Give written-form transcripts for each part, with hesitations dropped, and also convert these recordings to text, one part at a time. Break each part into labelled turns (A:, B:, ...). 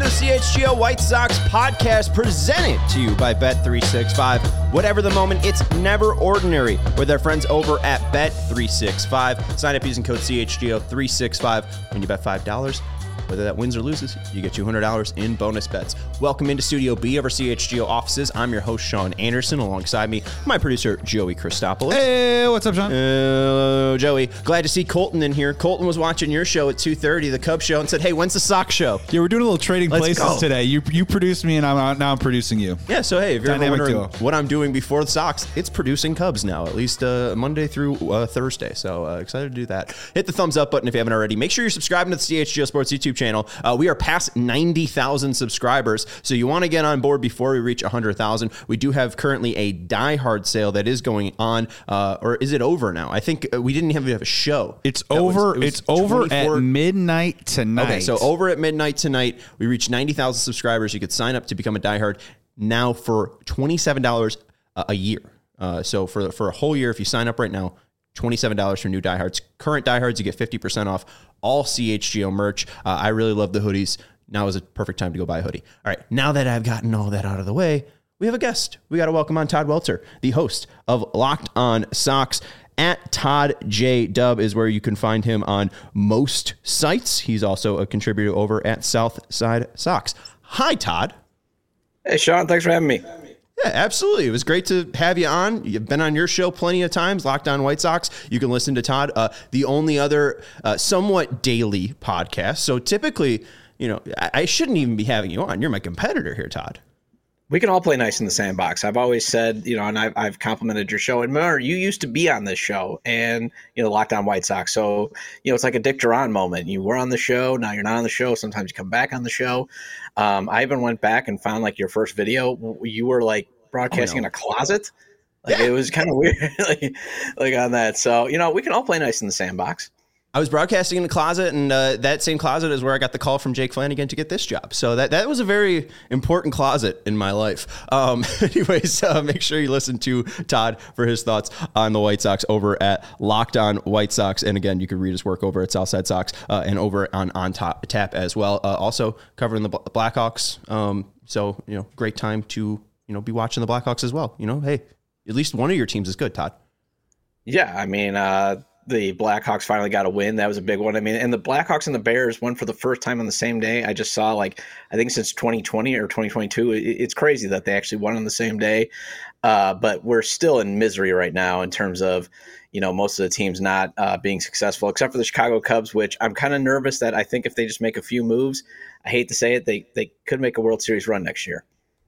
A: the CHGO White Sox podcast presented to you by Bet365. Whatever the moment, it's never ordinary with our friends over at Bet365. Sign up using code CHGO365 when you bet $5. Whether that wins or loses, you get $200 in bonus bets. Welcome into Studio B of our CHGO offices. I'm your host, Sean Anderson. Alongside me, my producer, Joey Christopoulos.
B: Hey, what's up, Sean?
A: Joey. Glad to see Colton in here. Colton was watching your show at 2:30, the Cubs show, and said, hey, when's the Sox show?
B: Yeah, we're doing a little trading
A: Let's
B: places
A: go.
B: today. You produced me, and now I'm producing you.
A: Yeah, so hey, if you're ever
B: Dynamic
A: wondering
B: duo.
A: what I'm doing before the Sox, it's producing Cubs now, at least Monday through Thursday. So excited to do that. Hit the thumbs up button if you haven't already. Make sure you're subscribing to the CHGO Sports YouTube channel. We are past 90,000 subscribers, so you want to get on board before we reach 100,000. We do have currently a Die Hard sale that is going on, or is it over now? I think we didn't even have a show.
B: It's over. It's over
A: 24
B: at midnight tonight.
A: Okay, so over at midnight tonight, we reached 90,000 subscribers. You could sign up to become a Die Hard now for $27 a year. So for a whole year, if you sign up right now, $27 for new diehards. Current diehards, you get 50% off all CHGO merch. I really love the hoodies. Now is a perfect time to go buy a hoodie. All right, now that I've gotten all that out of the way, we have a guest. We got to welcome on Todd Welter, the host of Locked On Sox. At Todd J. Dub is where you can find him on most sites. He's also a contributor over at Southside Sox. Hi, Todd.
C: Hey, Sean. Thanks for having me.
A: Yeah, absolutely. It was great to have you on. You've been on your show plenty of times, Locked On White Sox. You can listen to Todd, the only other somewhat daily podcast. So typically, I shouldn't even be having you on. You're my competitor here, Todd.
C: We can all play nice in the sandbox. I've always said, and I've complimented your show. And remember, you used to be on this show and, Locked On White Sox. So, it's like a Dick Duran moment. You were on the show. Now you're not on the show. Sometimes you come back on the show. I even went back and found like your first video. You were like broadcasting in a closet. It was kind of weird like on that. So, we can all play nice in the sandbox.
A: I was broadcasting in the closet, and that same closet is where I got the call from Jake Flanagan to get this job. So that was a very important closet in my life. Anyways, make sure you listen to Todd for his thoughts on the White Sox over at Locked On White Sox. And again, you can read his work over at Southside Sox and over on Tap as well. Also covering the Blackhawks. So, great time to, be watching the Blackhawks as well. Hey, at least one of your teams is good, Todd.
C: Yeah, I mean, the Blackhawks finally got a win. That was a big one. I mean, and the Blackhawks and the Bears won for the first time on the same day. I just saw, I think since 2020 or 2022, it's crazy that they actually won on the same day. But we're still in misery right now in terms of, most of the teams not being successful, except for the Chicago Cubs, which I'm kind of nervous that I think if they just make a few moves, I hate to say it, they could make a World Series run next year.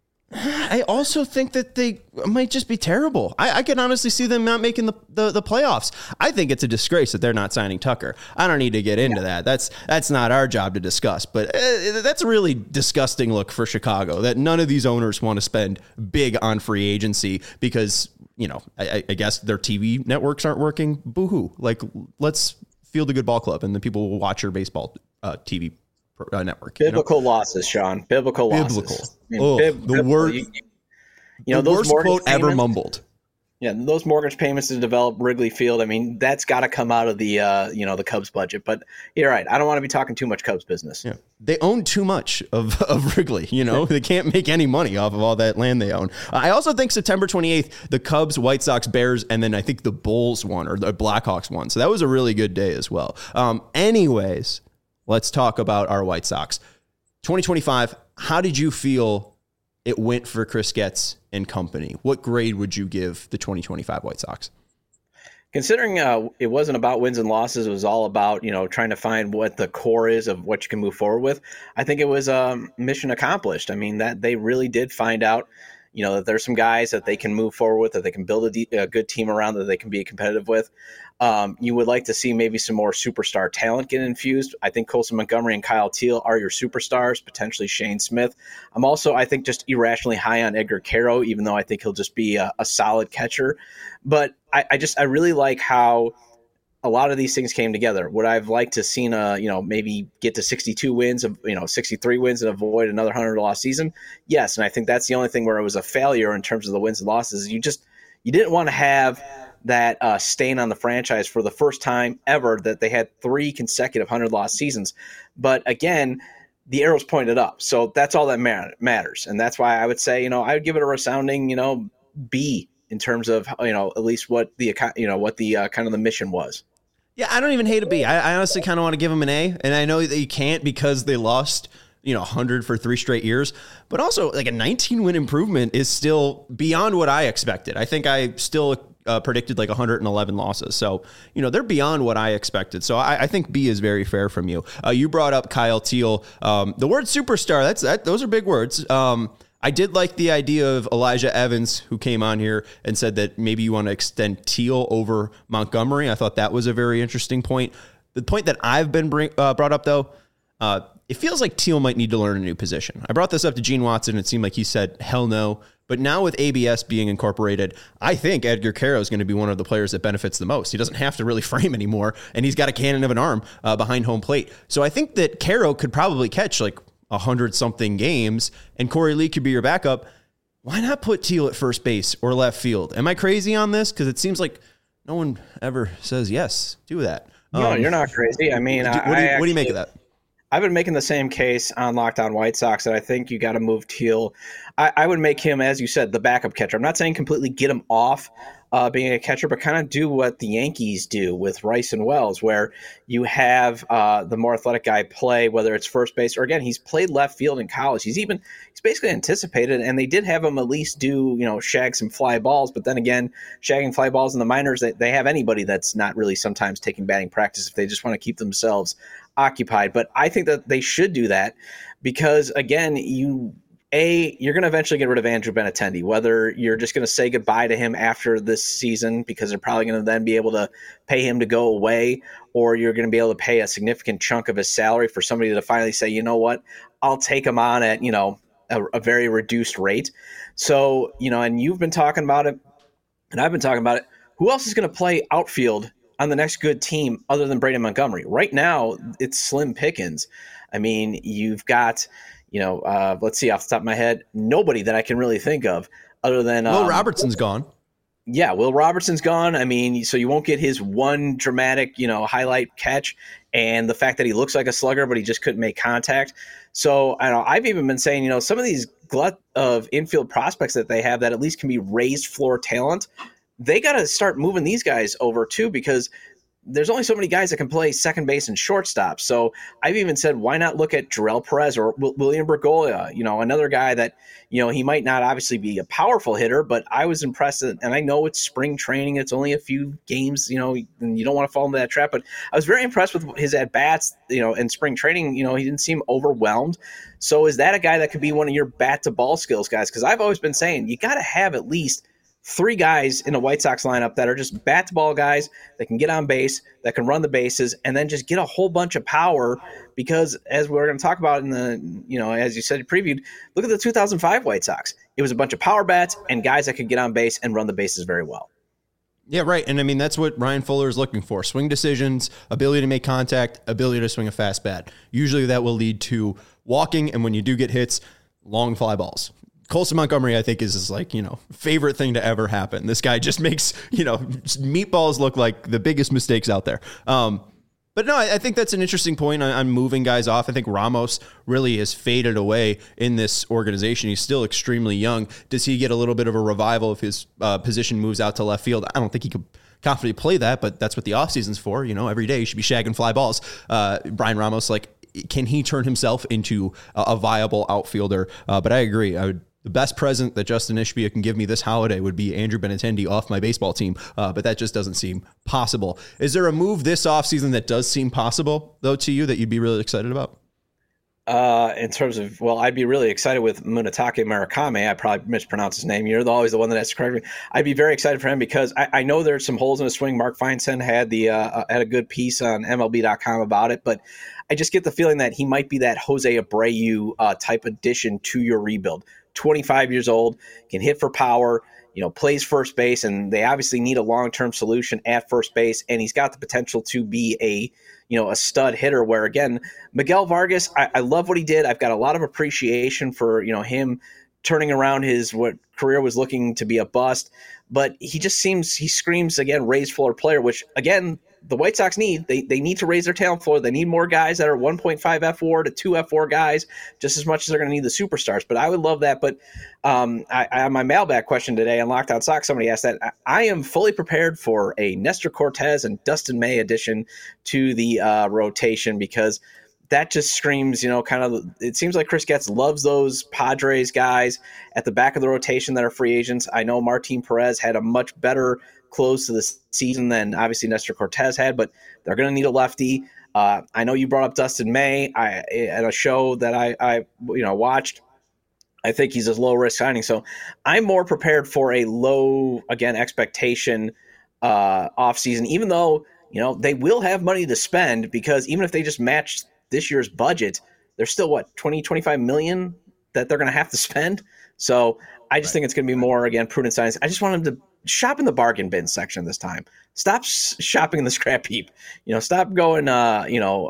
A: I also think that they might just be terrible. I can honestly see them not making the playoffs. I think it's a disgrace that they're not signing Tucker. I don't need to get into that. That's not our job to discuss. But that's a really disgusting look for Chicago, that none of these owners want to spend big on free agency because, I guess their TV networks aren't working. Boo-hoo. Let's field a good ball club, and then people will watch your baseball TV network.
C: Biblical losses, Sean. Biblical losses.
A: The worst quote ever mumbled.
C: Yeah, those mortgage payments to develop Wrigley Field. I mean, that's got to come out of the the Cubs budget. But you're right. I don't want to be talking too much Cubs business.
A: Yeah, they own too much of Wrigley. They can't make any money off of all that land they own. I also think September 28th, the Cubs, White Sox, Bears, and then I think the Bulls won or the Blackhawks won. So that was a really good day as well. Anyways, let's talk about our White Sox. 2025. How did you feel it went for Chris Getz and company? What grade would you give the 2025 White Sox?
C: Considering it wasn't about wins and losses, it was all about, trying to find what the core is of what you can move forward with. I think it was mission accomplished. I mean, that they really did find out, that there's some guys that they can move forward with, that they can build a good team around, that they can be competitive with. You would like to see maybe some more superstar talent get infused. I think Colson Montgomery and Kyle Teal are your superstars, potentially Shane Smith. I'm also, I think, just irrationally high on Edgar Quero, even though I think he'll just be a solid catcher. But I really like how a lot of these things came together. Would I've liked to seen maybe get to 62 wins of 63 wins and avoid another 100 loss season? Yes, and I think that's the only thing where it was a failure in terms of the wins and losses. You didn't want to have that stain on the franchise for the first time ever that they had 3 consecutive 100 loss seasons. But again, the arrow's pointed up. So that's all that matters. And that's why I would say, I would give it a resounding, B in terms of, at least what the kind of the mission was.
A: Yeah, I don't even hate a B. I honestly kind of want to give them an A, and I know that you can't because they lost 100 for 3 straight years, but also like a 19-win improvement is still beyond what I expected. I think I still predicted like 111 losses. So, they're beyond what I expected. So I think B is very fair from you. You brought up Kyle Teel. The word superstar, those are big words. I did like the idea of Elijah Evans, who came on here and said that maybe you want to extend Teel over Montgomery. I thought that was a very interesting point. The point that I've been brought up, though, it feels like Teel might need to learn a new position. I brought this up to Gene Watson. It seemed like he said, hell no. But now with ABS being incorporated, I think Edgar Quero is going to be one of the players that benefits the most. He doesn't have to really frame anymore, and he's got a cannon of an arm behind home plate. So I think that Quero could probably catch like 100-something games, and Corey Lee could be your backup. Why not put Teel at first base or left field? Am I crazy on this? Because it seems like no one ever says yes to that.
C: No, you're not crazy. I mean,
A: what do you make of that?
C: I've been making the same case on Locked On White Sox that I think you got to move Teel. I would make him, as you said, the backup catcher. I'm not saying completely get him off being a catcher, but kind of do what the Yankees do with Rice and Wells, where you have the more athletic guy play, whether it's first base or, again, he's played left field in college. He's basically anticipated, and they did have him at least do, shag some fly balls. But then again, shagging fly balls in the minors, they have anybody that's not really sometimes taking batting practice if they just want to keep themselves occupied. But I think that they should do that because, again, you're going to eventually get rid of Andrew Benintendi, whether you're just going to say goodbye to him after this season because they're probably going to then be able to pay him to go away, or you're going to be able to pay a significant chunk of his salary for somebody to finally say, you know what, I'll take him on at, a very reduced rate. So, and you've been talking about it and I've been talking about it. Who else is going to play outfield on the next good team other than Brandon Montgomery? Right now, it's slim pickings. I mean, you've got, let's see, off the top of my head, nobody that I can really think of other than
A: Will Robertson's gone.
C: Yeah, Will Robertson's gone. I mean, so you won't get his one dramatic, highlight catch, and the fact that he looks like a slugger, but he just couldn't make contact. So I've even been saying, some of these glut of infield prospects that they have that at least can be raised floor talent, they got to start moving these guys over too, because there's only so many guys that can play second base and shortstop. So I've even said, why not look at Jarrell Perez or William Bergolla, another guy that, he might not obviously be a powerful hitter, but I was impressed. And I know it's spring training. It's only a few games, and you don't want to fall into that trap, but I was very impressed with his at-bats, in spring training. He didn't seem overwhelmed. So is that a guy that could be one of your bat-to-ball skills guys? Because I've always been saying you got to have at least 3 guys in a White Sox lineup that are just bat-to-ball guys that can get on base, that can run the bases, and then just get a whole bunch of power. Because as we're going to talk about in the, as you said, previewed, look at the 2005 White Sox. It was a bunch of power bats and guys that could get on base and run the bases very well.
A: Yeah, right. And I mean, that's what Ryan Fuller is looking for. Swing decisions, ability to make contact, ability to swing a fast bat. Usually that will lead to walking, and when you do get hits, long fly balls. Colson Montgomery, I think, is his favorite thing to ever happen. This guy just makes, meatballs look like the biggest mistakes out there. But no, I think that's an interesting point on moving guys off. I think Ramos really has faded away in this organization. He's still extremely young. Does he get a little bit of a revival if his position moves out to left field? I don't think he could confidently play that, but that's what the offseason's for. Every day you should be shagging fly balls. Brian Ramos, can he turn himself into a viable outfielder? But I agree. The best present that Justin Ishbia can give me this holiday would be Andrew Benintendi off my baseball team, but that just doesn't seem possible. Is there a move this offseason that does seem possible, though, to you that you'd be really excited about?
C: In terms of, I'd be really excited with Munetake Murakami. I probably mispronounced his name. You're always the one that has to correct me. I'd be very excited for him because I know there's some holes in his swing. Mark Feinstein had a good piece on MLB.com about it, but I just get the feeling that he might be that Jose Abreu type addition to your rebuild. 25 years old, can hit for power, plays first base, and they obviously need a long-term solution at first base, and he's got the potential to be a stud hitter where, again, Miguel Vargas, I love what he did. I've got a lot of appreciation for, him turning around what career was looking to be a bust, but he screams, again, raised floor player, which, again, the White Sox need. They need to raise their talent floor. They need more guys that are 1.5 F4 to 2 F4 guys, just as much as they're going to need the superstars. But I would love that. But I my mailbag question today on Locked On Sox, somebody asked that. I am fully prepared for a Nestor Cortez and Dustin May addition to the rotation, because that just screams, kind of, it seems like Chris Getz loves those Padres guys at the back of the rotation that are free agents. I know Martin Perez had a much better close to the season than obviously Nestor Cortez had, but they're going to need a lefty. I know you brought up Dustin May at a show that I watched. I think he's a low risk signing. So I'm more prepared for a low, again, expectation offseason, even though, they will have money to spend, because even if they just match this year's budget, there's still 25 million that they're going to have to spend. So I just think it's going to be more, again, prudent signings. I just want them to shop in the bargain bin section this time. Stop shopping in the scrap heap. Stop going, to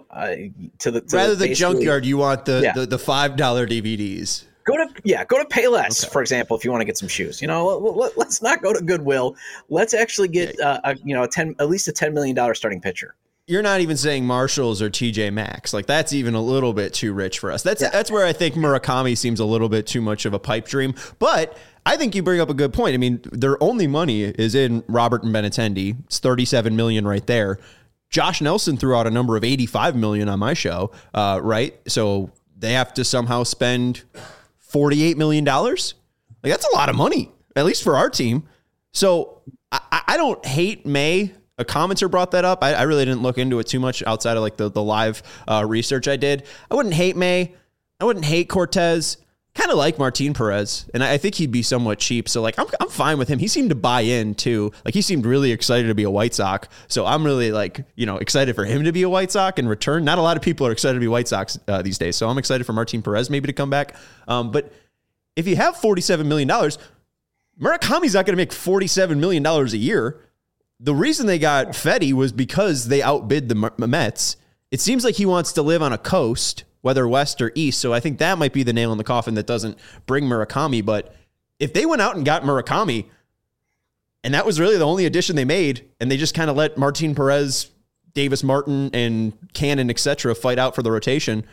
C: the
A: rather than junkyard. You want the $5 DVDs.
C: Go to Payless, for example, if you want to get some shoes. Let's not go to Goodwill. Let's actually get at least a $10 million starting pitcher.
A: You're not even saying Marshalls or TJ Maxx. Like, that's even a little bit too rich for us. That's where I think Murakami seems a little bit too much of a pipe dream. But I think you bring up a good point. I mean, their only money is in Robert and Benintendi. It's $37 million right there. Josh Nelson threw out a number of $85 million on my show, right? So they have to somehow spend $48 million. Like, that's a lot of money, at least for our team. So I don't hate May. A commenter brought that up. I really didn't look into it too much outside of like the live research I did. I wouldn't hate May. I wouldn't hate Cortez. Kind of like Martin Perez, and I think he'd be somewhat cheap. So like I'm fine with him. He seemed to buy in too. Like, he seemed really excited to be a White Sox. So I'm really excited for him to be a White Sox and return. Not a lot of people are excited to be White Sox these days. So I'm excited for Martin Perez maybe to come back. But if you have $47 million, Murakami's not going to make $47 million a year. The reason they got Fetty was because they outbid the Mets. It seems like he wants to live on a coast, whether west or east. So I think that might be the nail in the coffin that doesn't bring Murakami. But if they went out and got Murakami, and that was really the only addition they made, and they just kind of let Martin Perez, Davis Martin, and Cannon, etc., fight out for the rotation,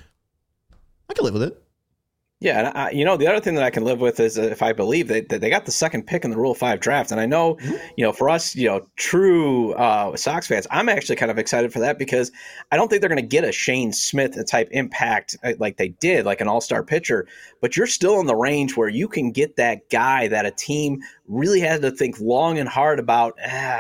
A: I could live with it.
C: Yeah, and the other thing that I can live with is if I believe that they got the second pick in the Rule 5 draft. And I know, for us, true Sox fans, I'm actually kind of excited for that, because I don't think they're going to get a Shane Smith type impact like they did, like an all-star pitcher. But you're still in the range where you can get that guy that a team really had to think long and hard about.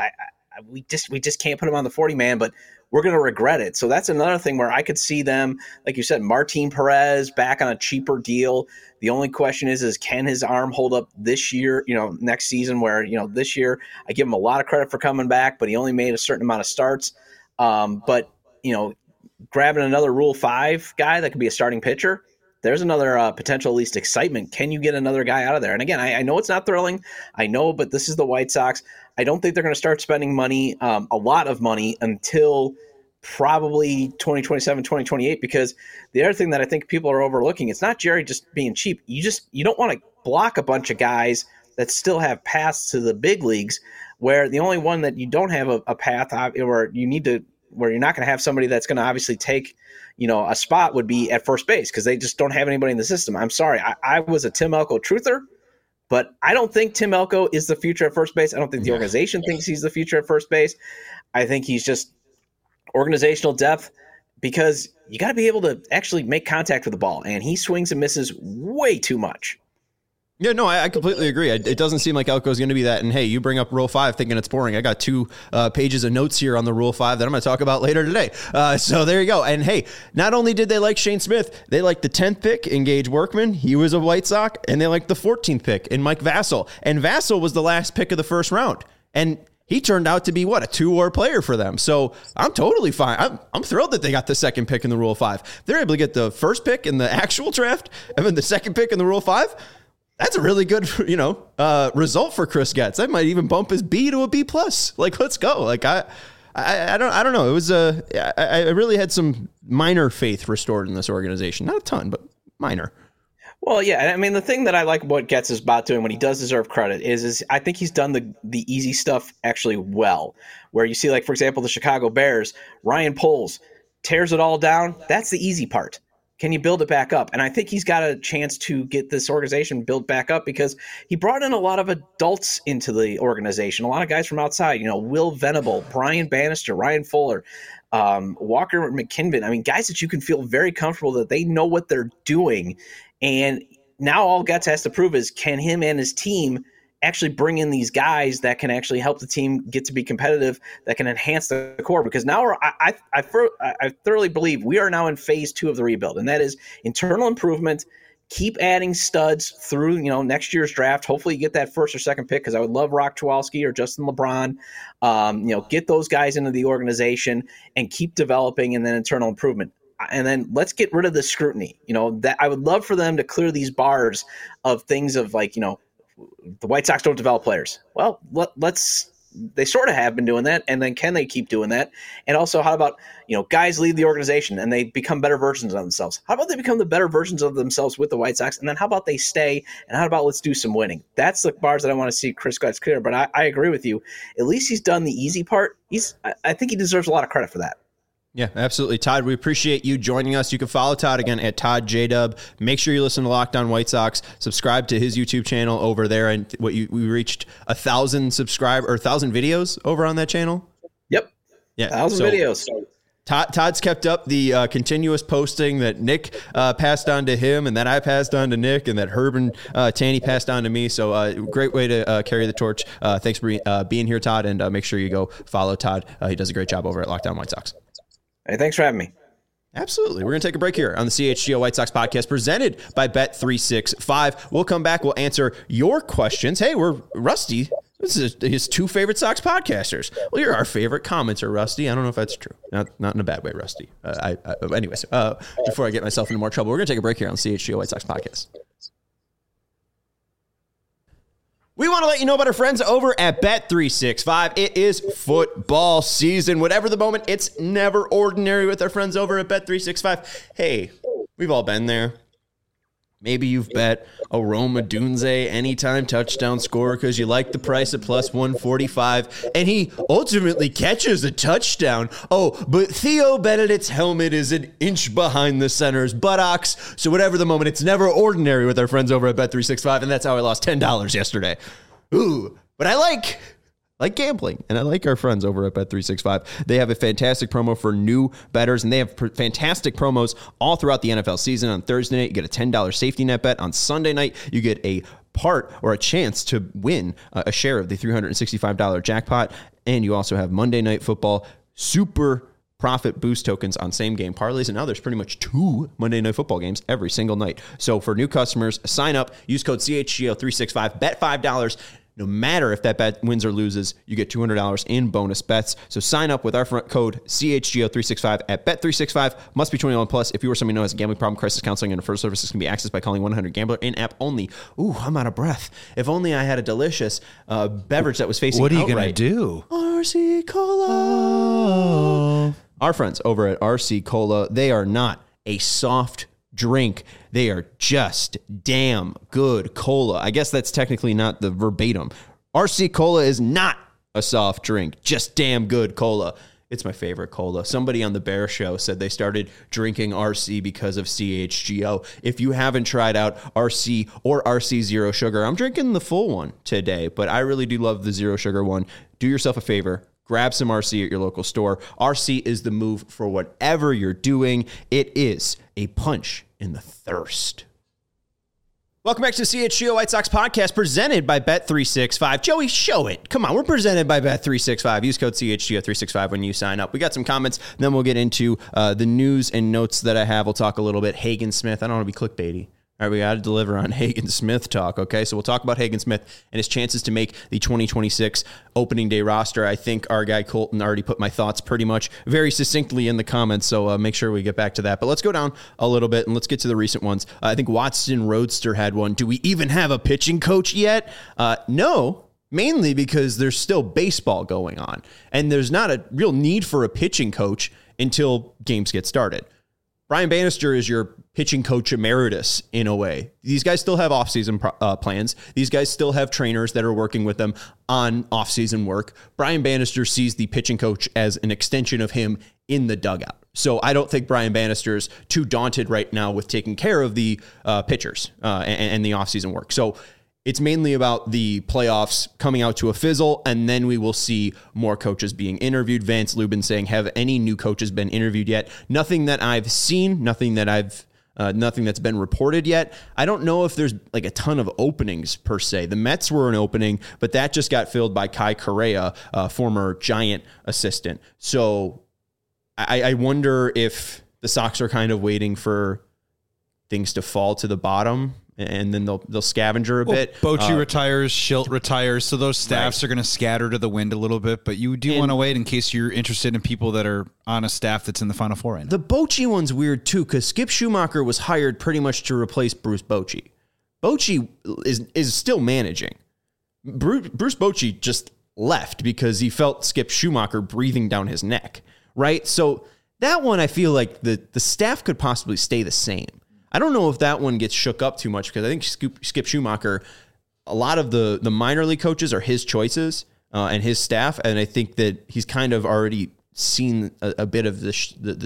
C: We just can't put him on the 40-man, but we're going to regret it. So that's another thing where I could see them, like you said, Martin Perez back on a cheaper deal. The only question is can his arm hold up this year, next season, where, this year I give him a lot of credit for coming back, but he only made a certain amount of starts. But grabbing another Rule 5 guy that could be a starting pitcher, there's another potential, at least, excitement. Can you get another guy out of there? And again, I know it's not thrilling. I know, but this is the White Sox. I don't think they're going to start spending money, a lot of money, until probably 2027, 2028, because the other thing that I think people are overlooking, it's not Jerry just being cheap. You don't want to block a bunch of guys that still have paths to the big leagues, where the only one that you don't have a path, or where you're not going to have somebody that's going to obviously take a spot, would be at first base, because they just don't have anybody in the system. I'm sorry. I was a Tim Elko truther, but I don't think Tim Elko is the future at first base. I don't think the organization thinks he's the future at first base. I think he's just organizational depth, because you got to be able to actually make contact with the ball, and he swings and misses way too much.
A: Yeah, no, I completely agree. It doesn't seem like Elko's going to be that. And hey, you bring up Rule 5 thinking it's boring. I got 2 pages of notes here on the Rule 5 that I'm going to talk about later today. So there you go. And hey, not only did they like Shane Smith, they liked the 10th pick in Gage Workman. He was a White Sox. And they liked the 14th pick in Mike Vassell. And Vassell was the last pick of the first round. And he turned out to be, a 2-WAR player for them. So I'm totally fine. I'm thrilled that they got the second pick in the Rule 5. They're able to get the first pick in the actual draft and then the second pick in the Rule 5. That's a really good, result for Chris Getz. That might even bump his B to a B+. Like, let's go. Like, I don't know. It was I really had some minor faith restored in this organization. Not a ton, but minor.
C: Well, yeah, I mean, the thing that I like what Getz is about doing when he does deserve credit is I think he's done the easy stuff actually well. Where you see, like, for example, the Chicago Bears, Ryan Poles tears it all down. That's the easy part. Can you build it back up? And I think he's got a chance to get this organization built back up because he brought in a lot of adults into the organization, a lot of guys from outside, Will Venable, Brian Bannister, Ryan Fuller, Walker McKinnon. I mean, guys that you can feel very comfortable that they know what they're doing. And now all Getz has to prove is, can him and his team actually bring in these guys that can actually help the team get to be competitive, that can enhance the core? Because now I thoroughly believe we are now in phase 2 of the rebuild, and that is internal improvement. Keep adding studs through next year's draft. Hopefully you get that first or second pick, because I would love Rock Tuwalski or Justin LeBron. Get those guys into the organization and keep developing, and then internal improvement. And then let's get rid of the scrutiny. That I would love for them to clear these bars of things of like, the White Sox don't develop players. Well, they sort of have been doing that. And then can they keep doing that? And also, how about, guys leave the organization and they become better versions of themselves? How about they become the better versions of themselves with the White Sox? And then how about they stay? And how about let's do some winning? That's the bars that I want to see Chris Getz clear. But I agree with you. At least he's done the easy part. I think he deserves a lot of credit for that.
A: Yeah, absolutely. Todd, we appreciate you joining us. You can follow Todd again at Todd JDub. Make sure you listen to Locked On White Sox. Subscribe to his YouTube channel over there. And we reached 1,000 videos over on that channel.
C: Yep.
A: Yeah.
C: 1,000 videos.
A: Todd's kept up the continuous posting that Nick passed on to him, and that I passed on to Nick, and that Herb and Tanny passed on to me. So great way to carry the torch. Thanks for being here, Todd, and make sure you go follow Todd. He does a great job over at Locked On White Sox.
C: Hey, thanks for having me.
A: Absolutely. We're going to take a break here on the CHGO White Sox podcast presented by Bet365. We'll come back. We'll answer your questions. Hey, we're Rusty. This is his 2 favorite Sox podcasters. Well, you're our favorite commenter, Rusty. I don't know if that's true. Not in a bad way, Rusty. Anyways, before I get myself into more trouble, we're going to take a break here on the CHGO White Sox podcast. We want to let you know about our friends over at Bet365. It is football season. Whatever the moment, it's never ordinary with our friends over at Bet365. Hey, we've all been there. Maybe you've bet a Rome Odunze anytime touchdown scorer because you like the price at plus 145, and he ultimately catches a touchdown. Oh, but Theo Benedict's helmet is an inch behind the center's buttocks. So whatever the moment, it's never ordinary with our friends over at Bet365, and that's how I lost $10 yesterday. Ooh, but I like gambling, and I like our friends over at Bet365. They have a fantastic promo for new bettors, and they have fantastic promos all throughout the NFL season. On Thursday night, you get a $10 safety net bet. On Sunday night, you get a chance to win a share of the $365 jackpot. And you also have Monday Night Football super profit boost tokens on same game parlays. And now there's pretty much 2 Monday Night Football games every single night. So for new customers, sign up, use code CHGO365, bet $5. No matter if that bet wins or loses, you get $200 in bonus bets. So sign up with our code CHGO365 at Bet365. Must be 21 plus. If you or someone who has a gambling problem, crisis counseling, and referral services can be accessed by calling 1-800-GAMBLER in-app only. Ooh, I'm out of breath. If only I had a delicious beverage that was facing
B: outright.
A: What are
B: you going to do?
A: RC Cola. Oh. Our friends over at RC Cola, they are not a soft drink. They are just damn good cola. I guess that's technically not the verbatim. RC Cola is not a soft drink, just damn good cola. It's my favorite cola. Somebody on the Bear Show said they started drinking RC because of CHGO. If you haven't tried out RC or RC Zero Sugar, I'm drinking the full one today, but I really do love the Zero Sugar one. Do yourself a favor. Grab some RC at your local store. RC is the move for whatever you're doing. It is a punch in the thirst. Welcome back to the CHGO White Sox podcast presented by Bet365. Joey, show it. Come on, we're presented by Bet365. Use code CHGO365 when you sign up. We got some comments, then we'll get into the news and notes that I have. We'll talk a little bit Hagen Smith. I don't want to be clickbaity. All right, we got to deliver on Hagen Smith talk, okay? So we'll talk about Hagen Smith and his chances to make the 2026 opening day roster. I think our guy Colton already put my thoughts pretty much very succinctly in the comments, so make sure we get back to that. But let's go down a little bit and let's get to the recent ones. I think Watson Roadster had one. Do we even have a pitching coach yet? No. Mainly because there's still baseball going on, and there's not a real need for a pitching coach until games get started. Brian Bannister is your pitching coach emeritus in a way. These guys still have offseason plans. These guys still have trainers that are working with them on offseason work. Brian Bannister sees the pitching coach as an extension of him in the dugout. So I don't think Brian Bannister's too daunted right now with taking care of the pitchers and the offseason work. So it's mainly about the playoffs coming out to a fizzle, and then we will see more coaches being interviewed. Vance Lubin saying, have any new coaches been interviewed yet? Nothing that I've seen, nothing that's been reported yet. I don't know if there's like a ton of openings per se. The Mets were an opening, but that just got filled by Kai Correa, former Giant assistant. So I wonder if the Sox are kind of waiting for things to fall to the bottom, and then they'll scavenger a bit.
B: Bochy retires, Schilt retires, so those staffs are going to scatter to the wind a little bit, but you do want to wait in case you're interested in people that are on a staff that's in the Final Four right now.
A: The Bochy one's weird too, because Skip Schumacher was hired pretty much to replace Bruce Bochy. Bochy is still managing. Bruce Bochy just left because he felt Skip Schumacher breathing down his neck, right? So that one, I feel like the staff could possibly stay the same. I don't know if that one gets shook up too much because I think Skip Schumacher, a lot of the minor league coaches are his choices and his staff, and I think that he's kind of already seen a bit of the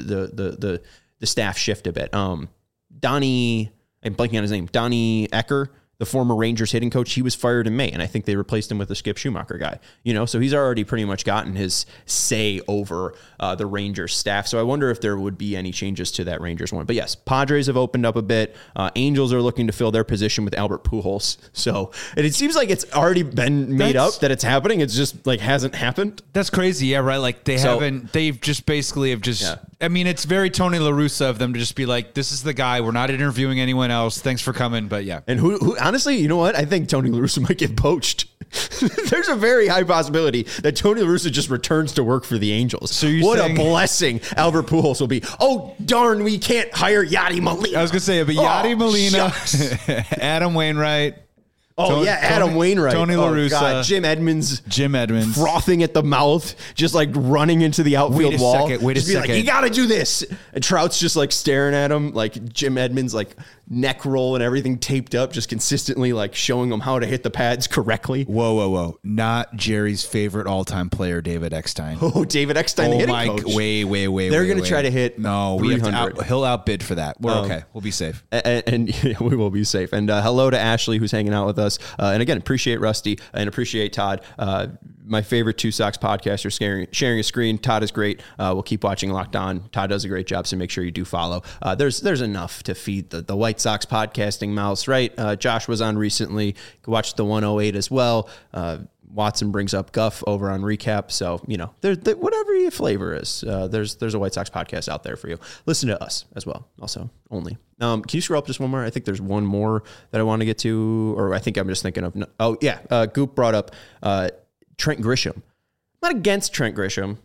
A: staff shift a bit. Donnie, I'm blanking on his name, Donnie Ecker, the former Rangers hitting coach, he was fired in May, and I think they replaced him with a Skip Schumacher guy. So he's already pretty much gotten his say over the Rangers staff. So I wonder if there would be any changes to that Rangers one. But yes, Padres have opened up a bit. Angels are looking to fill their position with Albert Pujols. So it seems like it's already been made up that it's happening. It's just like hasn't happened.
B: That's crazy. Yeah, right. Like they've just basically I mean, it's very Tony La Russa of them to just be like, this is the guy. We're not interviewing anyone else. Thanks for coming. But yeah.
A: And who honestly, you know what? I think Tony La Russa might get poached. There's a very high possibility that Tony La Russa just returns to work for the Angels. So what a blessing Albert Pujols will be. Oh, darn, we can't hire Yadi Molina.
B: I was going to say, but Yadi Molina, Adam Wainwright.
A: Adam Wainwright.
B: Tony La Russa. God,
A: Jim Edmonds.
B: Frothing
A: at the mouth, just like running into the outfield wall.
B: Wait a second.
A: Like, you got to do this. And Trout's just like staring at him, like Jim Edmonds, like neck roll and everything taped up, just consistently like showing him how to hit the pads correctly.
B: Whoa. Not Jerry's favorite all-time player, David Eckstein.
A: Oh, David Eckstein, the hitting coach.
B: Way.
A: They're going to try to hit 300.
B: He'll outbid for that. We're okay. We'll be safe.
A: And we will be safe. And hello to Ashley, who's hanging out with us. And again, appreciate Rusty and appreciate Todd. My favorite two Sox podcasters sharing a screen. Todd is great. We'll keep watching Locked On. Todd does a great job, so make sure you do follow. There's enough to feed the White Sox podcasting mouse, right? Josh was on recently. Watched the 108 as well. Watson brings up Guff over on Recap. So, whatever your flavor is, there's a White Sox podcast out there for you. Listen to us as well. Also, only. Can you scroll up just one more? I think there's one more that I want to get to, or I think I'm just thinking of. Oh, yeah. Goop brought up Trent Grisham. I'm not against Trent Grisham.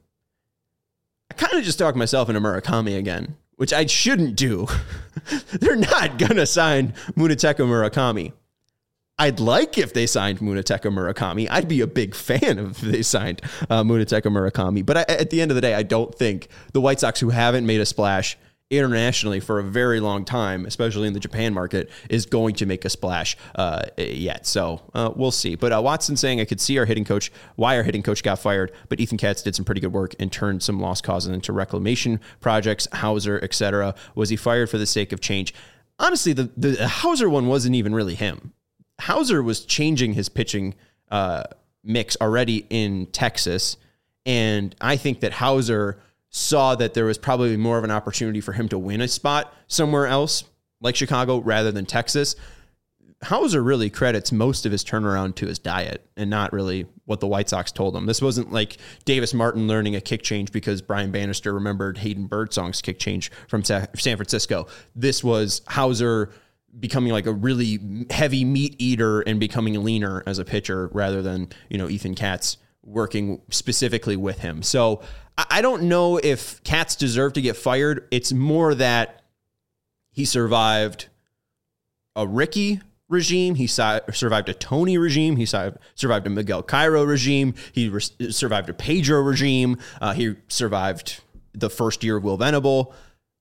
A: I kind of just talked myself into Murakami again, which I shouldn't do. They're not going to sign Munetaka Murakami. I'd like if they signed Munetaka Murakami. I'd be a big fan if they signed Munetaka Murakami. But at the end of the day, I don't think the White Sox, who haven't made a splash internationally for a very long time, especially in the Japan market, is going to make a splash yet. So we'll see. But Watson saying, I could see why our hitting coach got fired, but Ethan Katz did some pretty good work and turned some lost causes into reclamation projects, Hauser, etc. Was he fired for the sake of change? Honestly, the Hauser one wasn't even really him. Hauser was changing his pitching mix already in Texas, and I think that Hauser saw that there was probably more of an opportunity for him to win a spot somewhere else, like Chicago, rather than Texas. Hauser really credits most of his turnaround to his diet and not really what the White Sox told him. This wasn't like Davis Martin learning a kick change because Brian Bannister remembered Hayden Birdsong's kick change from San Francisco. This was Hauser becoming like a really heavy meat eater and becoming leaner as a pitcher rather than, Ethan Katz working specifically with him. So I don't know if Katz deserved to get fired. It's more that he survived a Ricky regime. He survived a Tony regime. He survived a Miguel Cairo regime. He survived a Pedro regime. He survived the first year of Will Venable.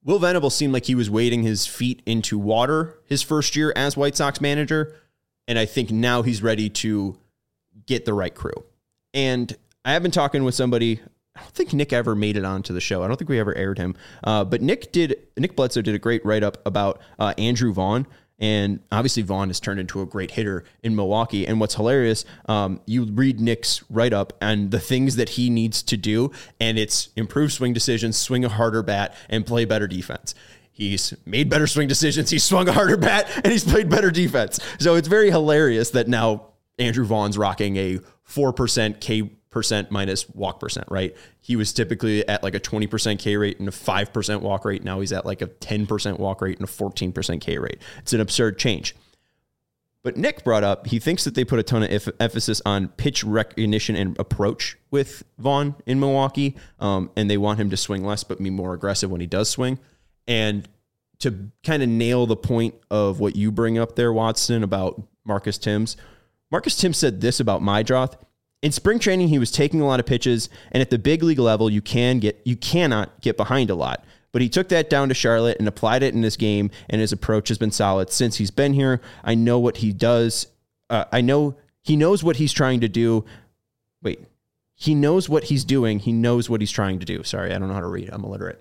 A: Will Venable seemed like he was wading his feet into water his first year as White Sox manager, and I think now he's ready to get the right crew. And I have been talking with somebody. I don't think Nick ever made it onto the show. I don't think we ever aired him. But Nick Bledsoe did a great write-up about Andrew Vaughn. And obviously Vaughn has turned into a great hitter in Milwaukee. And what's hilarious, you read Nick's write-up and the things that he needs to do, and it's improve swing decisions, swing a harder bat, and play better defense. He's made better swing decisions, he's swung a harder bat, and he's played better defense. So it's very hilarious that now Andrew Vaughn's rocking a 4% K percent minus walk percent, right? He was typically at like a 20% K rate and a 5% walk rate. Now he's at like a 10% walk rate and a 14% K rate. It's an absurd change. But Nick brought up, he thinks that they put a ton of emphasis on pitch recognition and approach with Vaughn in Milwaukee. And they want him to swing less, but be more aggressive when he does swing. And to kind of nail the point of what you bring up there, Watson, about Marcus Thames said this about Meidroth. In spring training, he was taking a lot of pitches, and at the big league level, you cannot get behind a lot. But he took that down to Charlotte and applied it in this game, and his approach has been solid since he's been here. I know what he does. I know he knows what he's trying to do. He knows what he's doing. He knows what he's trying to do. Sorry, I don't know how to read. I'm illiterate.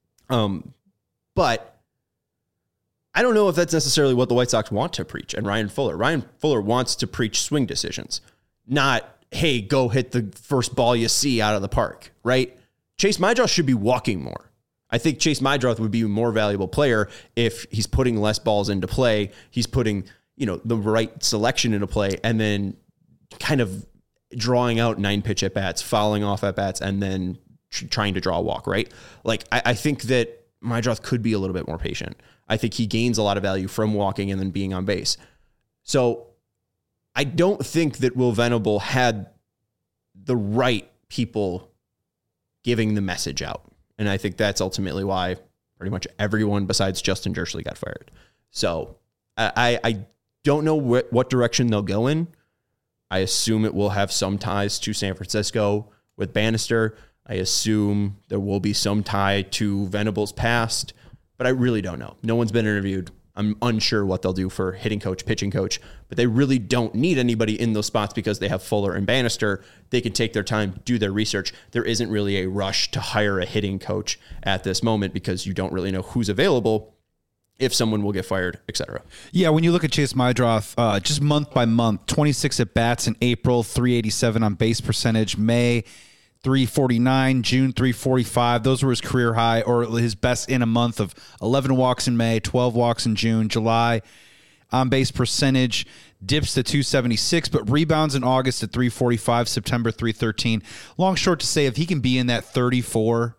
A: But I don't know if that's necessarily what the White Sox want to preach. And Ryan Fuller wants to preach swing decisions, not, hey, go hit the first ball you see out of the park, right? Chase Meidroth should be walking more. I think Chase Meidroth would be a more valuable player if he's putting less balls into play. He's putting, the right selection into play and then kind of drawing out 9-pitch at-bats, fouling off at-bats, and then trying to draw a walk, right? Like, I think that Meidroth could be a little bit more patient. I think he gains a lot of value from walking and then being on base. So I don't think that Will Venable had the right people giving the message out. And I think that's ultimately why pretty much everyone besides Justin Jersley got fired. So I don't know what direction they'll go in. I assume it will have some ties to San Francisco with Bannister. I assume there will be some tie to Venable's past, but I really don't know. No one's been interviewed. I'm unsure what they'll do for hitting coach, pitching coach, but they really don't need anybody in those spots because they have Fuller and Bannister. They can take their time, do their research. There isn't really a rush to hire a hitting coach at this moment because you don't really know who's available, if someone will get fired, etc.
B: Yeah, when you look at Chase Meidroth, just month by month, 26 at-bats in April, 387 on base percentage, May 349, June 345. Those were his career high or his best in a month of 11 walks in May, 12 walks in June. July on base percentage dips to 276, but rebounds in August at 345, September 313. Long short to say, if he can be in that 34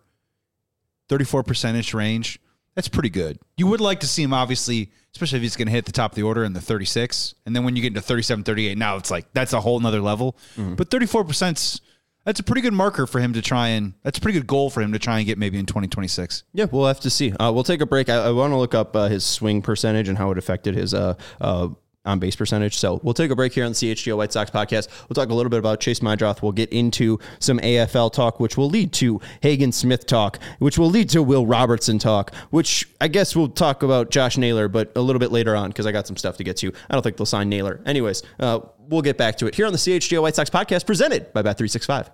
B: percentage range, that's pretty good. You would like to see him, obviously, especially if he's going to hit the top of the order in the 36. And then when you get into 37, 38, now it's like that's a whole nother level. Mm-hmm. But 34%, that's a pretty good marker for him to try and that's a pretty good goal for him to try and get maybe in 2026.
A: Yeah, we'll have to see. We'll take a break. I want to look up his swing percentage and how it affected his on-base percentage. So we'll take a break here on the CHGO White Sox podcast. We'll talk a little bit about Chase Meidroth. We'll get into some AFL talk, which will lead to Hagen Smith talk, which will lead to Will Robertson talk, which I guess we'll talk about Josh Naylor, but a little bit later on because I got some stuff to get to. I don't think they'll sign Naylor. Anyways, we'll get back to it here on the CHGO White Sox podcast presented by Bet365.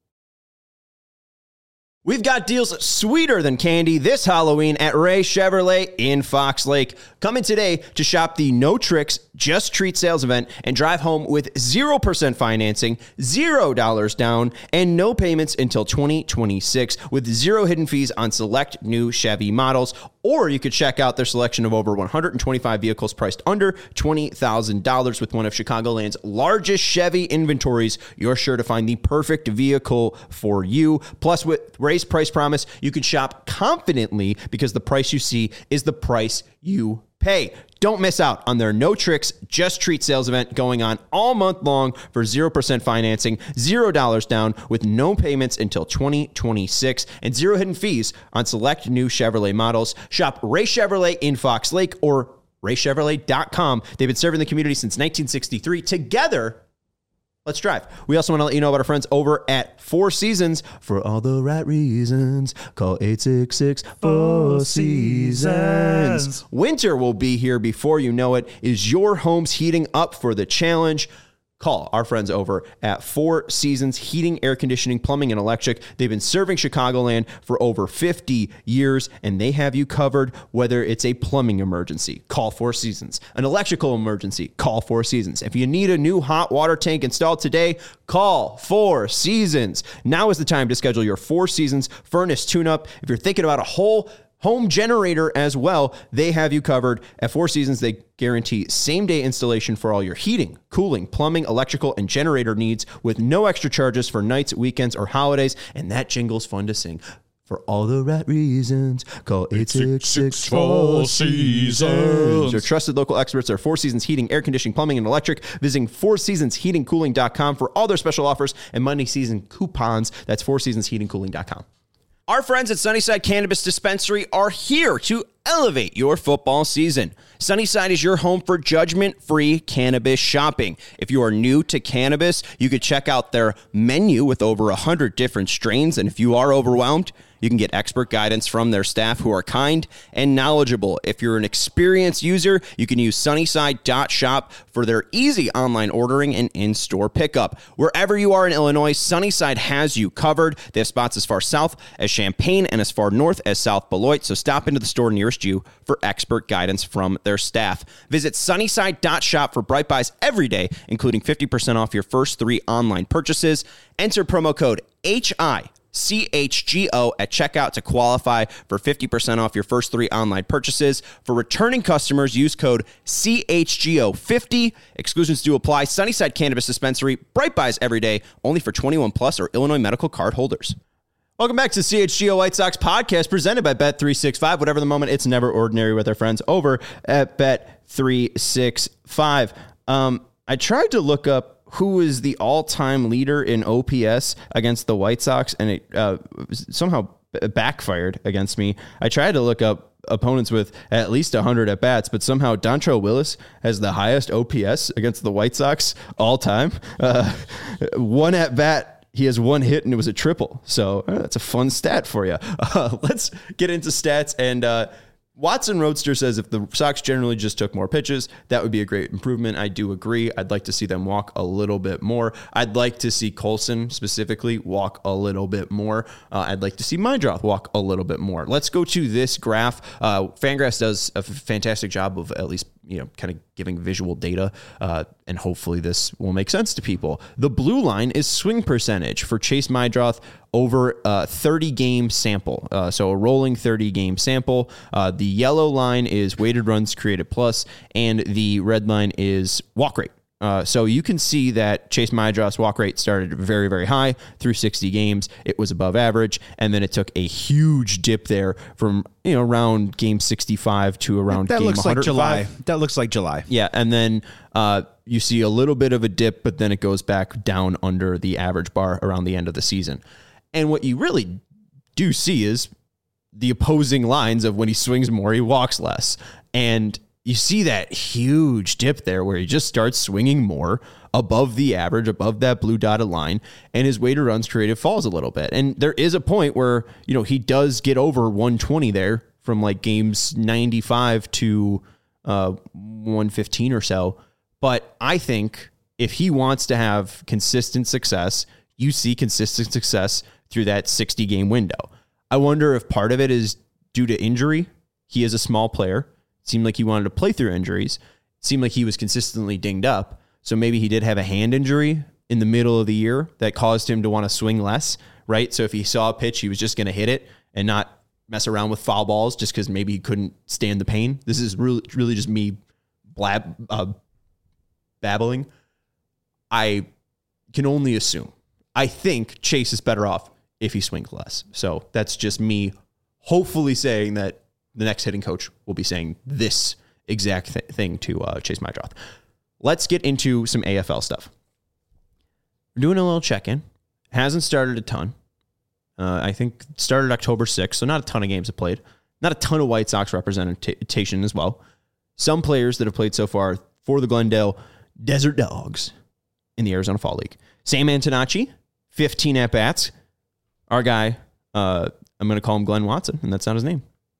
A: We've got deals sweeter than candy this Halloween at Ray Chevrolet in Fox Lake. Come in today to shop the No Tricks, Just Treat sales event and drive home with 0% financing, $0 down, and no payments until 2026 with zero hidden fees on select new Chevy models. Or you could check out their selection of over 125 vehicles priced under $20,000 with one of Chicagoland's largest Chevy inventories. You're sure to find the perfect vehicle for you. Plus, with Ray's Price Promise, you can shop confidently because the price you see is the price you pay. Don't miss out on their No Tricks, Just Treat sales event going on all month long for 0% financing, $0 down with no payments until 2026 and zero hidden fees on select new Chevrolet models. Shop Ray Chevrolet in Fox Lake or RayChevrolet.com. They've been serving the community since 1963. Together, Let's drive. We also want to let you know about our friends over at Four Seasons. For all the right reasons, call 866-4-SEASONS. Winter will be here before you know it. Is your home's heating up for the challenge? Call our friends over at Four Seasons Heating, Air Conditioning, Plumbing, and Electric. They've been serving Chicagoland for over 50 years, and they have you covered whether it's a plumbing emergency. Call Four Seasons. An electrical emergency. Call Four Seasons. If you need a new hot water tank installed today, call Four Seasons. Now is the time to schedule your Four Seasons furnace tune-up. If you're thinking about a whole home generator as well, they have you covered. At Four Seasons, they guarantee same-day installation for all your heating, cooling, plumbing, electrical, and generator needs with no extra charges for nights, weekends, or holidays. And that jingle's fun to sing. For all the right reasons, call 866-4-SEASONS. Your trusted local experts are Four Seasons Heating, Air Conditioning, Plumbing, and Electric. Visiting fourseasonsheatingcooling.com for all their special offers and money season coupons. That's fourseasonsheatingcooling.com. Our friends at Sunnyside Cannabis Dispensary are here to elevate your football season. Sunnyside is your home for judgment-free cannabis shopping. If you are new to cannabis, you could check out their menu with over 100 different strains. And if you are overwhelmed, you can get expert guidance from their staff who are kind and knowledgeable. If you're an experienced user, you can use Sunnyside.shop for their easy online ordering and in-store pickup. Wherever you are in Illinois, Sunnyside has you covered. They have spots as far south as Champaign and as far north as South Beloit, so stop into the store nearest you for expert guidance from their staff. Visit Sunnyside.shop for Bright Buys every day, including 50% off your first 3 online purchases. Enter promo code HICHGO at checkout to qualify for 50% off your first 3 online purchases. For returning customers, use code CHGO50. Exclusions do apply. Sunnyside Cannabis Dispensary, Bright Buys every day, only for 21 plus or Illinois medical card holders. Welcome back to CHGO White Sox podcast presented by Bet365. Whatever the moment, it's never ordinary with our friends over at Bet365. I tried to look up who is the all-time leader in OPS against the White Sox, and it somehow backfired against me. I tried to look up opponents with at least 100 at-bats, but somehow Dontrelle Willis has the highest OPS against the White Sox all time. One at-bat, he has 1 hit, and it was a triple. So that's a fun stat for you. Let's get into stats. And Watson Roadster says if the Sox generally just took more pitches, that would be a great improvement. I do agree. I'd like to see them walk a little bit more. I'd like to see Colson specifically walk a little bit more. I'd like to see Meidroth walk a little bit more. Let's go to this graph. Fangraphs does a fantastic job of at least kind of giving visual data, and hopefully this will make sense to people. The blue line is swing percentage for Chase Meidroth over a 30-game sample. So a rolling 30-game sample. The yellow line is weighted runs created plus, and the red line is walk rate. So you can see that Chase Meidroth's walk rate started very, very high through 60 games. It was above average, and then it took a huge dip there from around game 65 to around game 105.
B: That looks like July.
A: Yeah, and then you see a little bit of a dip, but then it goes back down under the average bar around the end of the season. And what you really do see is the opposing lines of when he swings more, he walks less. And you see that huge dip there where he just starts swinging more above the average, above that blue dotted line, and his weighted runs created falls a little bit. And there is a point where, he does get over 120 there from like games 95 to 115 or so. But I think if he wants to have consistent success, you see consistent success through that 60-game window. I wonder if part of it is due to injury. He is a small player. It seemed like he wanted to play through injuries. It seemed like he was consistently dinged up. So maybe he did have a hand injury in the middle of the year that caused him to want to swing less, right? So if he saw a pitch, he was just going to hit it and not mess around with foul balls just because maybe he couldn't stand the pain. This is really just me babbling. I can only assume. I think Chase is better off if he swings less. So that's just me hopefully saying that the next hitting coach will be saying this exact thing to Chase Meidroth. Let's get into some AFL stuff. We're doing a little check-in. Hasn't started a ton. I think started October 6th, so not a ton of games have played. Not a ton of White Sox representation as well. Some players that have played so far for the Glendale Desert Dogs. in the Arizona Fall League. Sam Antonacci, 15 at-bats. Our guy, I'm going to call him Glenn Watson, and that's not his name.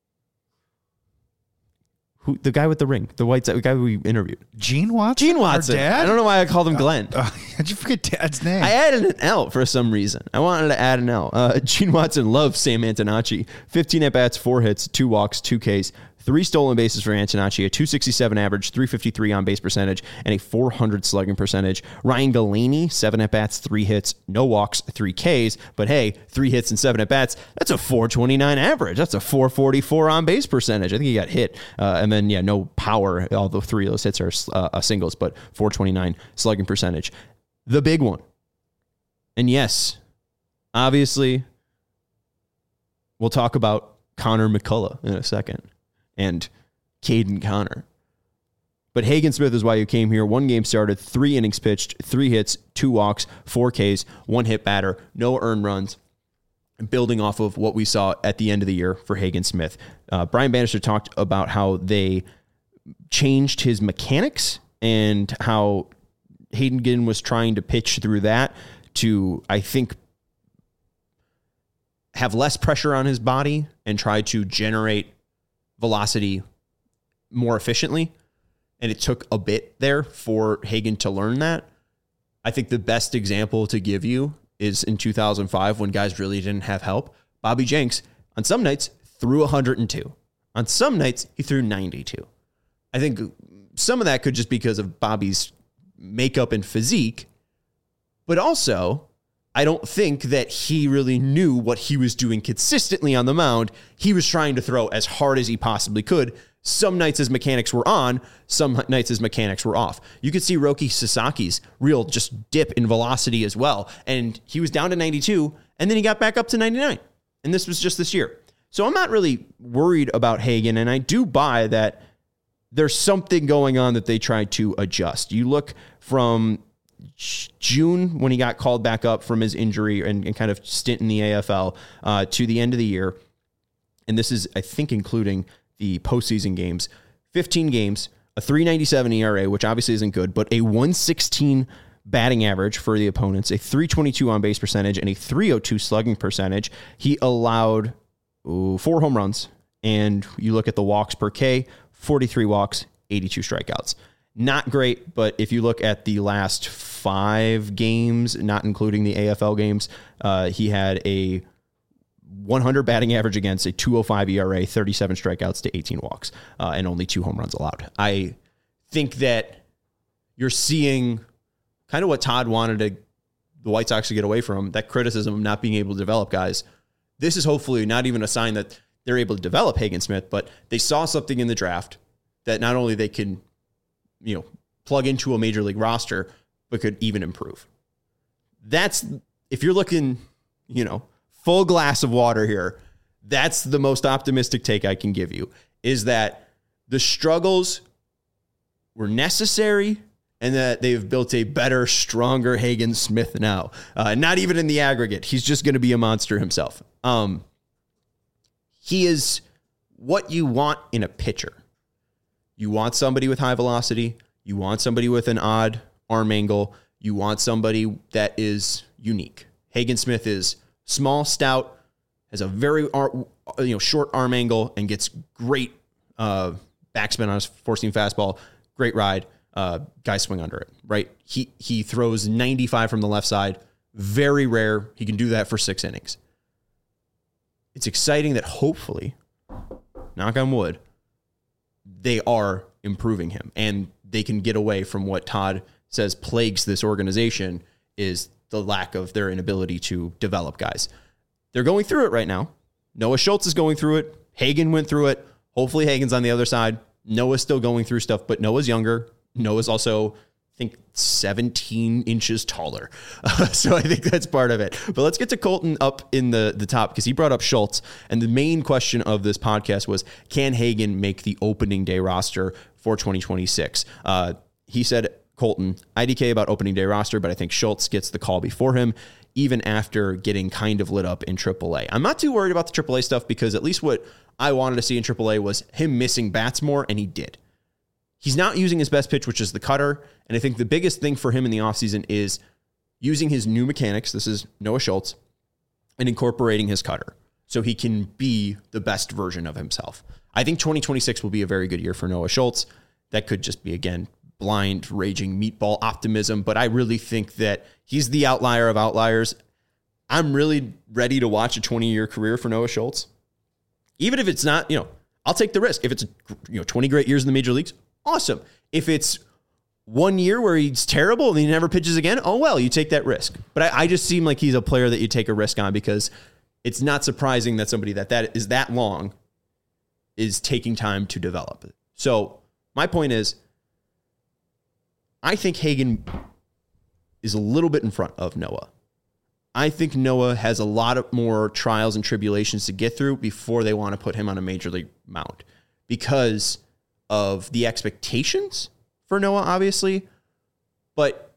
A: Who, the guy with the ring, the guy we interviewed.
B: Gene Watson?
A: Gene Watson.
B: Our dad?
A: I don't know why I called him Glenn.
B: How'd you forget Dad's name?
A: I added an L for some reason. I wanted to add an L. Gene Watson loves Sam Antonacci. 15 at-bats, 4 hits, 2 walks, 2 Ks, 3 stolen bases for Antonacci, a 267 average, 353 on base percentage, and a 400 slugging percentage. Ryan Galaney, 7 at-bats, 3 hits, no walks, 3 Ks. But hey, 3 hits and 7 at-bats, that's a 429 average. That's a 444 on base percentage. I think he got hit. And then, no power. Although 3 of those hits are singles, but 429 slugging percentage. The big one. And yes, obviously, we'll talk about Connor McCullough in a second. And Caden Connor. But Hagen Smith is why you came here. 1 game started, 3 innings pitched, 3 hits, 2 walks, 4 Ks, 1 hit batter, no earned runs. Building off of what we saw at the end of the year for Hagen Smith. Brian Bannister talked about how they changed his mechanics and how Hagen was trying to pitch through that to, I think, have less pressure on his body and try to generate velocity more efficiently. And it took a bit there for Hagen to learn that. I think the best example to give you is in 2005 when guys really didn't have help. Bobby Jenks, on some nights, threw 102. On some nights, he threw 92. I think some of that could just be because of Bobby's makeup and physique, but also I don't think that he really knew what he was doing consistently on the mound. He was trying to throw as hard as he possibly could. Some nights his mechanics were on, some nights his mechanics were off. You could see Roki Sasaki's real just dip in velocity as well. And he was down to 92, and then he got back up to 99. And this was just this year. So I'm not really worried about Hagen, and I do buy that there's something going on that they tried to adjust. You look from June when he got called back up from his injury and kind of stint in the AFL to the end of the year. And this is, I think, including the postseason games, 15 games, a 3.97 ERA, which obviously isn't good, but a 116 batting average for the opponents, a 322 on base percentage, and a 302 slugging percentage. He allowed 4 home runs. And you look at the walks per K, 43 walks, 82 strikeouts. Not great, but if you look at the last 5 games, not including the AFL games, he had a 100 batting average against, a 205 ERA, 37 strikeouts to 18 walks, and only 2 home runs allowed. I think that you're seeing kind of what Todd wanted the White Sox to get away from, that criticism of not being able to develop guys. This is hopefully not even a sign that they're able to develop Hagen Smith, but they saw something in the draft that not only they can plug into a major league roster, but could even improve. That's, if you're looking, full glass of water here, that's the most optimistic take I can give you, is that the struggles were necessary and that they've built a better, stronger Hagen Smith now. Not even in the aggregate. He's just going to be a monster himself. He is what you want in a pitcher. You want somebody with high velocity. You want somebody with an odd arm angle. You want somebody that is unique. Hagen Smith is small, stout, has a very short arm angle, and gets great backspin on his four-seam fastball. Great ride. Guys swing under it, right? He throws 95 from the left side. Very rare. He can do that for 6 innings. It's exciting that hopefully, knock on wood, they are improving him and they can get away from what Todd says plagues this organization, is the lack of their inability to develop guys. They're going through it right now. Noah Schultz is going through it. Hagen went through it. Hopefully Hagen's on the other side. Noah's still going through stuff, but Noah's younger. Noah's also, I think, 17 inches taller. So I think that's part of it. But let's get to Colton up in the top, because he brought up Schultz. And the main question of this podcast was, can Hagen make the opening day roster for 2026? He said, Colton, IDK about opening day roster, but I think Schultz gets the call before him, even after getting kind of lit up in AAA. I'm not too worried about the AAA stuff, because at least what I wanted to see in AAA was him missing bats more, and he did. he's not using his best pitch, which is the cutter. And I think the biggest thing for him in the offseason is using his new mechanics. This is Noah Schultz, and incorporating his cutter so he can be the best version of himself. I think 2026 will be a very good year for Noah Schultz. That could just be, again, blind, raging meatball optimism, but I really think that he's the outlier of outliers. I'm really ready to watch a 20-year career for Noah Schultz. Even if it's not, I'll take the risk. If it's 20 great years in the major leagues, awesome. If it's 1 year where he's terrible and he never pitches again, oh well, you take that risk. But I just seem like he's a player that you take a risk on, because it's not surprising that somebody that is that long is taking time to develop. So my point is, I think Hagen is a little bit in front of Noah. I think Noah has a lot of more trials and tribulations to get through before they want to put him on a major league mound, because of the expectations for Noah, obviously, but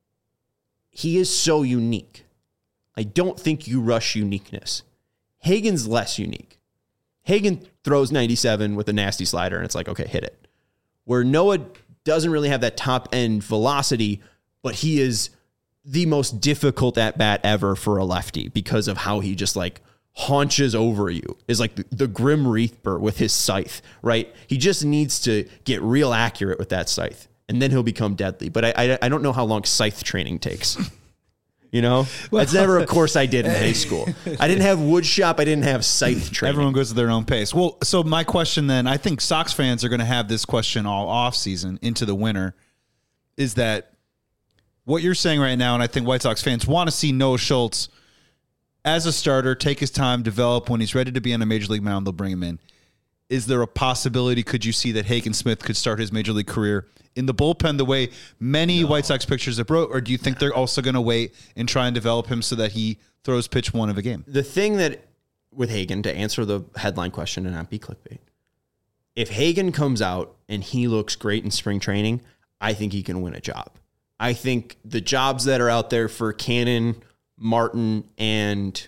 A: he is so unique. I don't think you rush uniqueness. Hagen's less unique. Hagen throws 97 with a nasty slider, and it's like, okay, hit it. Where Noah doesn't really have that top-end velocity, but he is the most difficult at-bat ever for a lefty because of how he just like haunches over you, is like the Grim Reaper with his scythe, right? He just needs to get real accurate with that scythe, and then he'll become deadly. But I don't know how long scythe training takes. That's never a course I did in high school. I didn't have wood shop. I didn't have scythe training.
B: Everyone goes at their own pace. Well, so my question then, I think Sox fans are going to have this question all off season into the winter, is that what you're saying right now, and I think White Sox fans want to see Noah Schultz as a starter, take his time, develop. When he's ready to be on a major league mound, they'll bring him in. Is there a possibility, could you see that Hagen Smith could start his major league career in the bullpen the way many White Sox pitchers have wrote, or do you think they're also going to wait and try and develop him so that he throws pitch one of a game?
A: The thing that, with Hagen, to answer the headline question and not be clickbait, if Hagen comes out and he looks great in spring training, I think he can win a job. I think the jobs that are out there for Cannon, Martin, and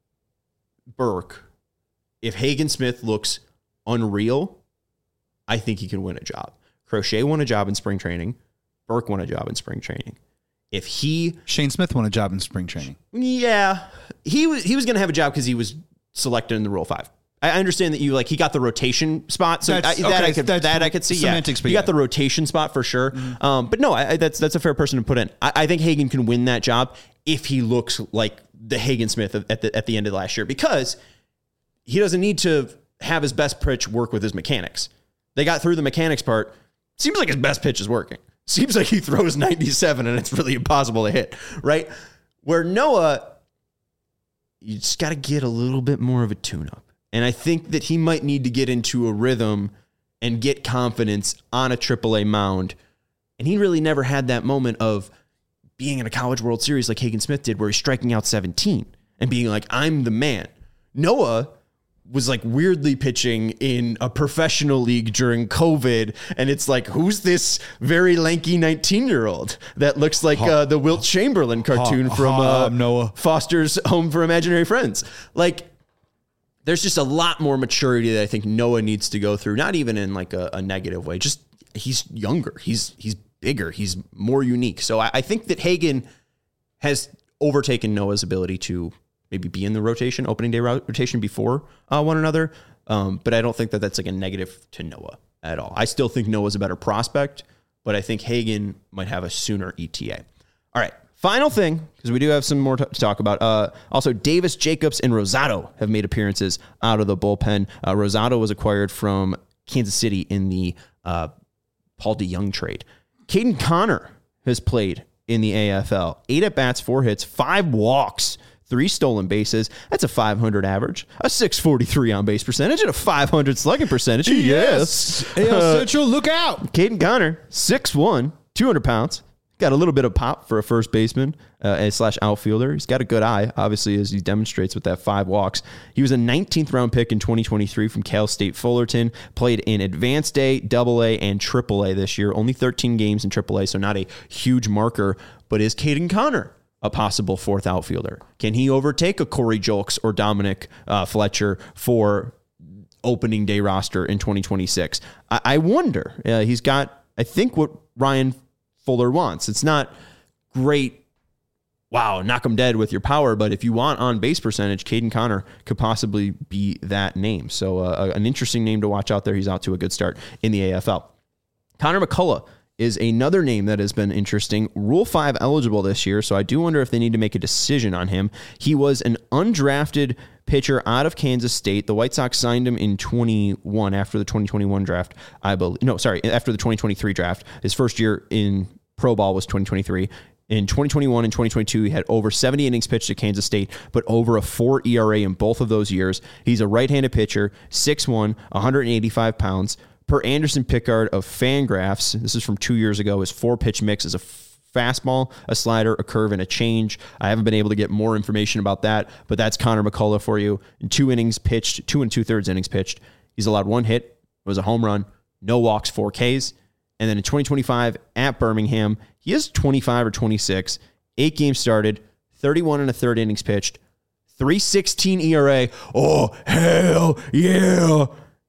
A: Burke, if Hagen Smith looks unreal, I think he can win a job. Crochet won a job in spring training. Burke won a job in spring training.
B: Shane Smith won a job in spring training.
A: Yeah, he was going to have a job because he was selected in the Rule 5. I understand that he got the rotation spot, so I could see.
B: Semantics,
A: he got the rotation spot for sure. Mm-hmm. But no, that's a fair person to put in. I think Hagen can win that job if he looks like the Hagen Smith at the end of last year, because he doesn't need to have his best pitch work with his mechanics. They got through the mechanics part. Seems like his best pitch is working. Seems like he throws 97 and it's really impossible to hit, right? Where Noah, you just got to get a little bit more of a tune-up. And I think that he might need to get into a rhythm and get confidence on a AAA mound. And he really never had that moment of being in a College World Series like Hagen Smith did, where he's striking out 17 and being like, I'm the man. Noah was like weirdly pitching in a professional league during COVID. And it's like, who's this very lanky 19-year-old that looks like the Wilt Chamberlain cartoon from
B: Noah
A: Foster's Home for Imaginary Friends? Like, there's just a lot more maturity that I think Noah needs to go through, not even in like a negative way. Just he's younger, he's bigger, he's more unique. So I think that Hagen has overtaken Noah's ability to maybe be in the rotation, opening day rotation before one another. But I don't think that that's like a negative to Noah at all. I still think Noah's a better prospect, but I think Hagen might have a sooner ETA. All right. Final thing, because we do have some more to talk about. Also, Davis, Jacobs, and Rosado have made appearances out of the bullpen. Rosado was acquired from Kansas City in the Paul DeJong trade. Caden Connor has played in the AFL. 8 at-bats, 4 hits, 5 walks, 3 stolen bases. That's a 500 average, a 643 on-base percentage, and a 500 slugging percentage. Yes.
B: AL Central, look out.
A: Caden Connor, 6'1", 200 pounds. Got a little bit of pop for a first baseman / outfielder. He's got a good eye, obviously, as he demonstrates with that 5 walks. He was a 19th round pick in 2023 from Cal State Fullerton. Played in Advanced A, AA, and AAA this year. Only 13 games in AAA, so not a huge marker. But is Caden Connor a possible 4th outfielder? Can he overtake a Corey Julks or Dominic Fletcher for opening day roster in 2026? I wonder. He's got I think, what Ryan Fuller wants. It's not great, wow, knock him dead with your power, but if you want on base percentage, Caden Connor could possibly be that name. So an interesting name to watch out there. He's out to a good start in the AFL. Connor McCullough is another name that has been interesting. Rule 5 eligible this year, so I do wonder if they need to make a decision on him. He was an undrafted pitcher out of Kansas State. The White Sox signed him in 21 after the 2021 draft, I believe. No, sorry, after the 2023 draft. His first year in pro ball was 2023. In 2021 and 2022, he had over 70 innings pitched at Kansas State, but over a 4 ERA in both of those years. He's a right-handed pitcher, 6'1", 185 pounds. Per Anderson Pickard of Fangraphs, this is from 2 years ago, his 4-pitch mix is a fastball, a slider, a curve, and a change. I haven't been able to get more information about that, but that's Connor McCullough for you. In 2 innings pitched, 2 2/3 innings pitched, he's allowed 1 hit, it was a home run, no walks, 4 Ks. And then in 2025 at Birmingham, he is 25 or 26, 8 games started, 31 1/3 innings pitched, 3.16 ERA. Oh, hell yeah.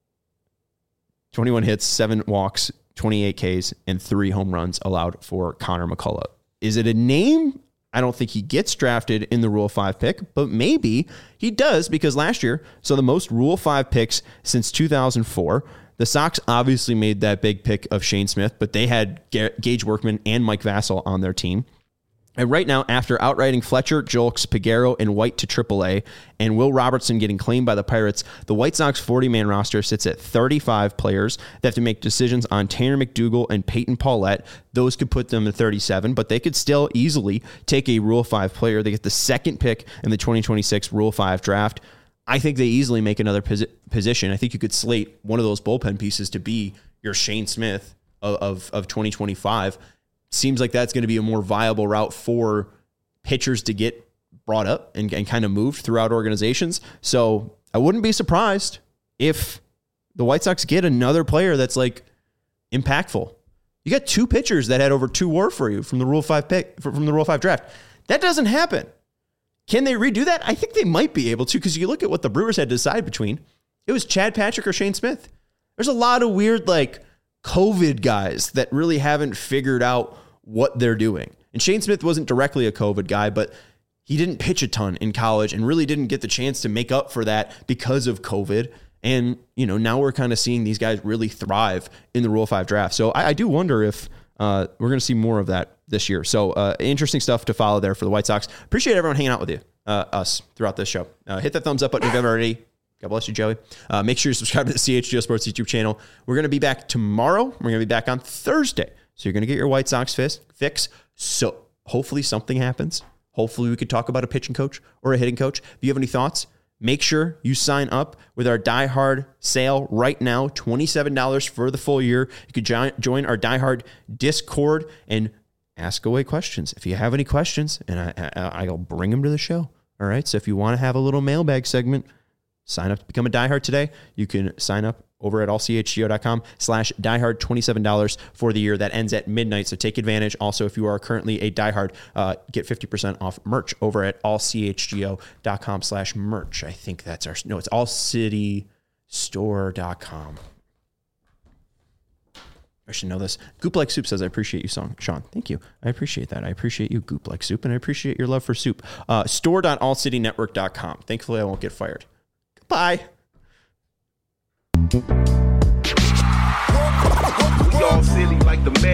A: 21 hits, 7 walks, 28 Ks, and 3 home runs allowed for Connor McCullough. Is it a name? I don't think he gets drafted in the Rule 5 pick, but maybe he does, because last year saw the most Rule 5 picks since 2004. The Sox obviously made that big pick of Shane Smith, but they had Gage Workman and Mike Vassell on their team. And right now, after outrighting Fletcher, Julks, Peguero, and White to AAA, and Will Robertson getting claimed by the Pirates, the White Sox 40-man roster sits at 35 players. They have to make decisions on Tanner McDougal and Peyton Paulette. Those could put them at 37, but they could still easily take a Rule 5 player. They get the second pick in the 2026 Rule 5 draft. I think they easily make another position. I think you could slate one of those bullpen pieces to be your Shane Smith of 2025. Seems like that's going to be a more viable route for pitchers to get brought up and kind of moved throughout organizations. So I wouldn't be surprised if the White Sox get another player that's like impactful. You got 2 pitchers that had over 2 WAR for you from the Rule 5 pick, from the Rule 5 draft. That doesn't happen. Can they redo that? I think they might be able to, because you look at what the Brewers had to decide between. It was Chad Patrick or Shane Smith. There's a lot of weird like COVID guys that really haven't figured out what they're doing. And Shane Smith wasn't directly a COVID guy, but he didn't pitch a ton in college and really didn't get the chance to make up for that because of COVID. And, you know, now we're kind of seeing these guys really thrive in the Rule 5 draft. So I do wonder if we're going to see more of that this year. So interesting stuff to follow there for the White Sox. Appreciate everyone hanging out with you, us, throughout this show. Hit that thumbs up button if you haven't already. God bless you, Joey. Make sure you subscribe to the CHGO Sports YouTube channel. We're going to be back tomorrow. We're going to be back on Thursday. So you're going to get your White Sox fix. So hopefully something happens. Hopefully we could talk about a pitching coach or a hitting coach. If you have any thoughts, make sure you sign up with our Die Hard sale right now. $27 for the full year. You could join our Die Hard Discord and ask away questions. If you have any questions, and I'll bring them to the show. All right. So if you want to have a little mailbag segment, sign up to become a Die Hard today. You can sign up over at allchgo.com/diehard, $27 for the year. That ends at midnight, so take advantage. Also, if you are currently a diehard, get 50% off merch over at allchgo.com/merch. I think that's it's allcitystore.com. I should know this. Goop Like Soup says, I appreciate you, Sean. Thank you. I appreciate that. I appreciate you, Goop Like Soup, and I appreciate your love for soup. Store.allcitynetwork.com. Thankfully, I won't get fired. Goodbye.
D: We all silly like the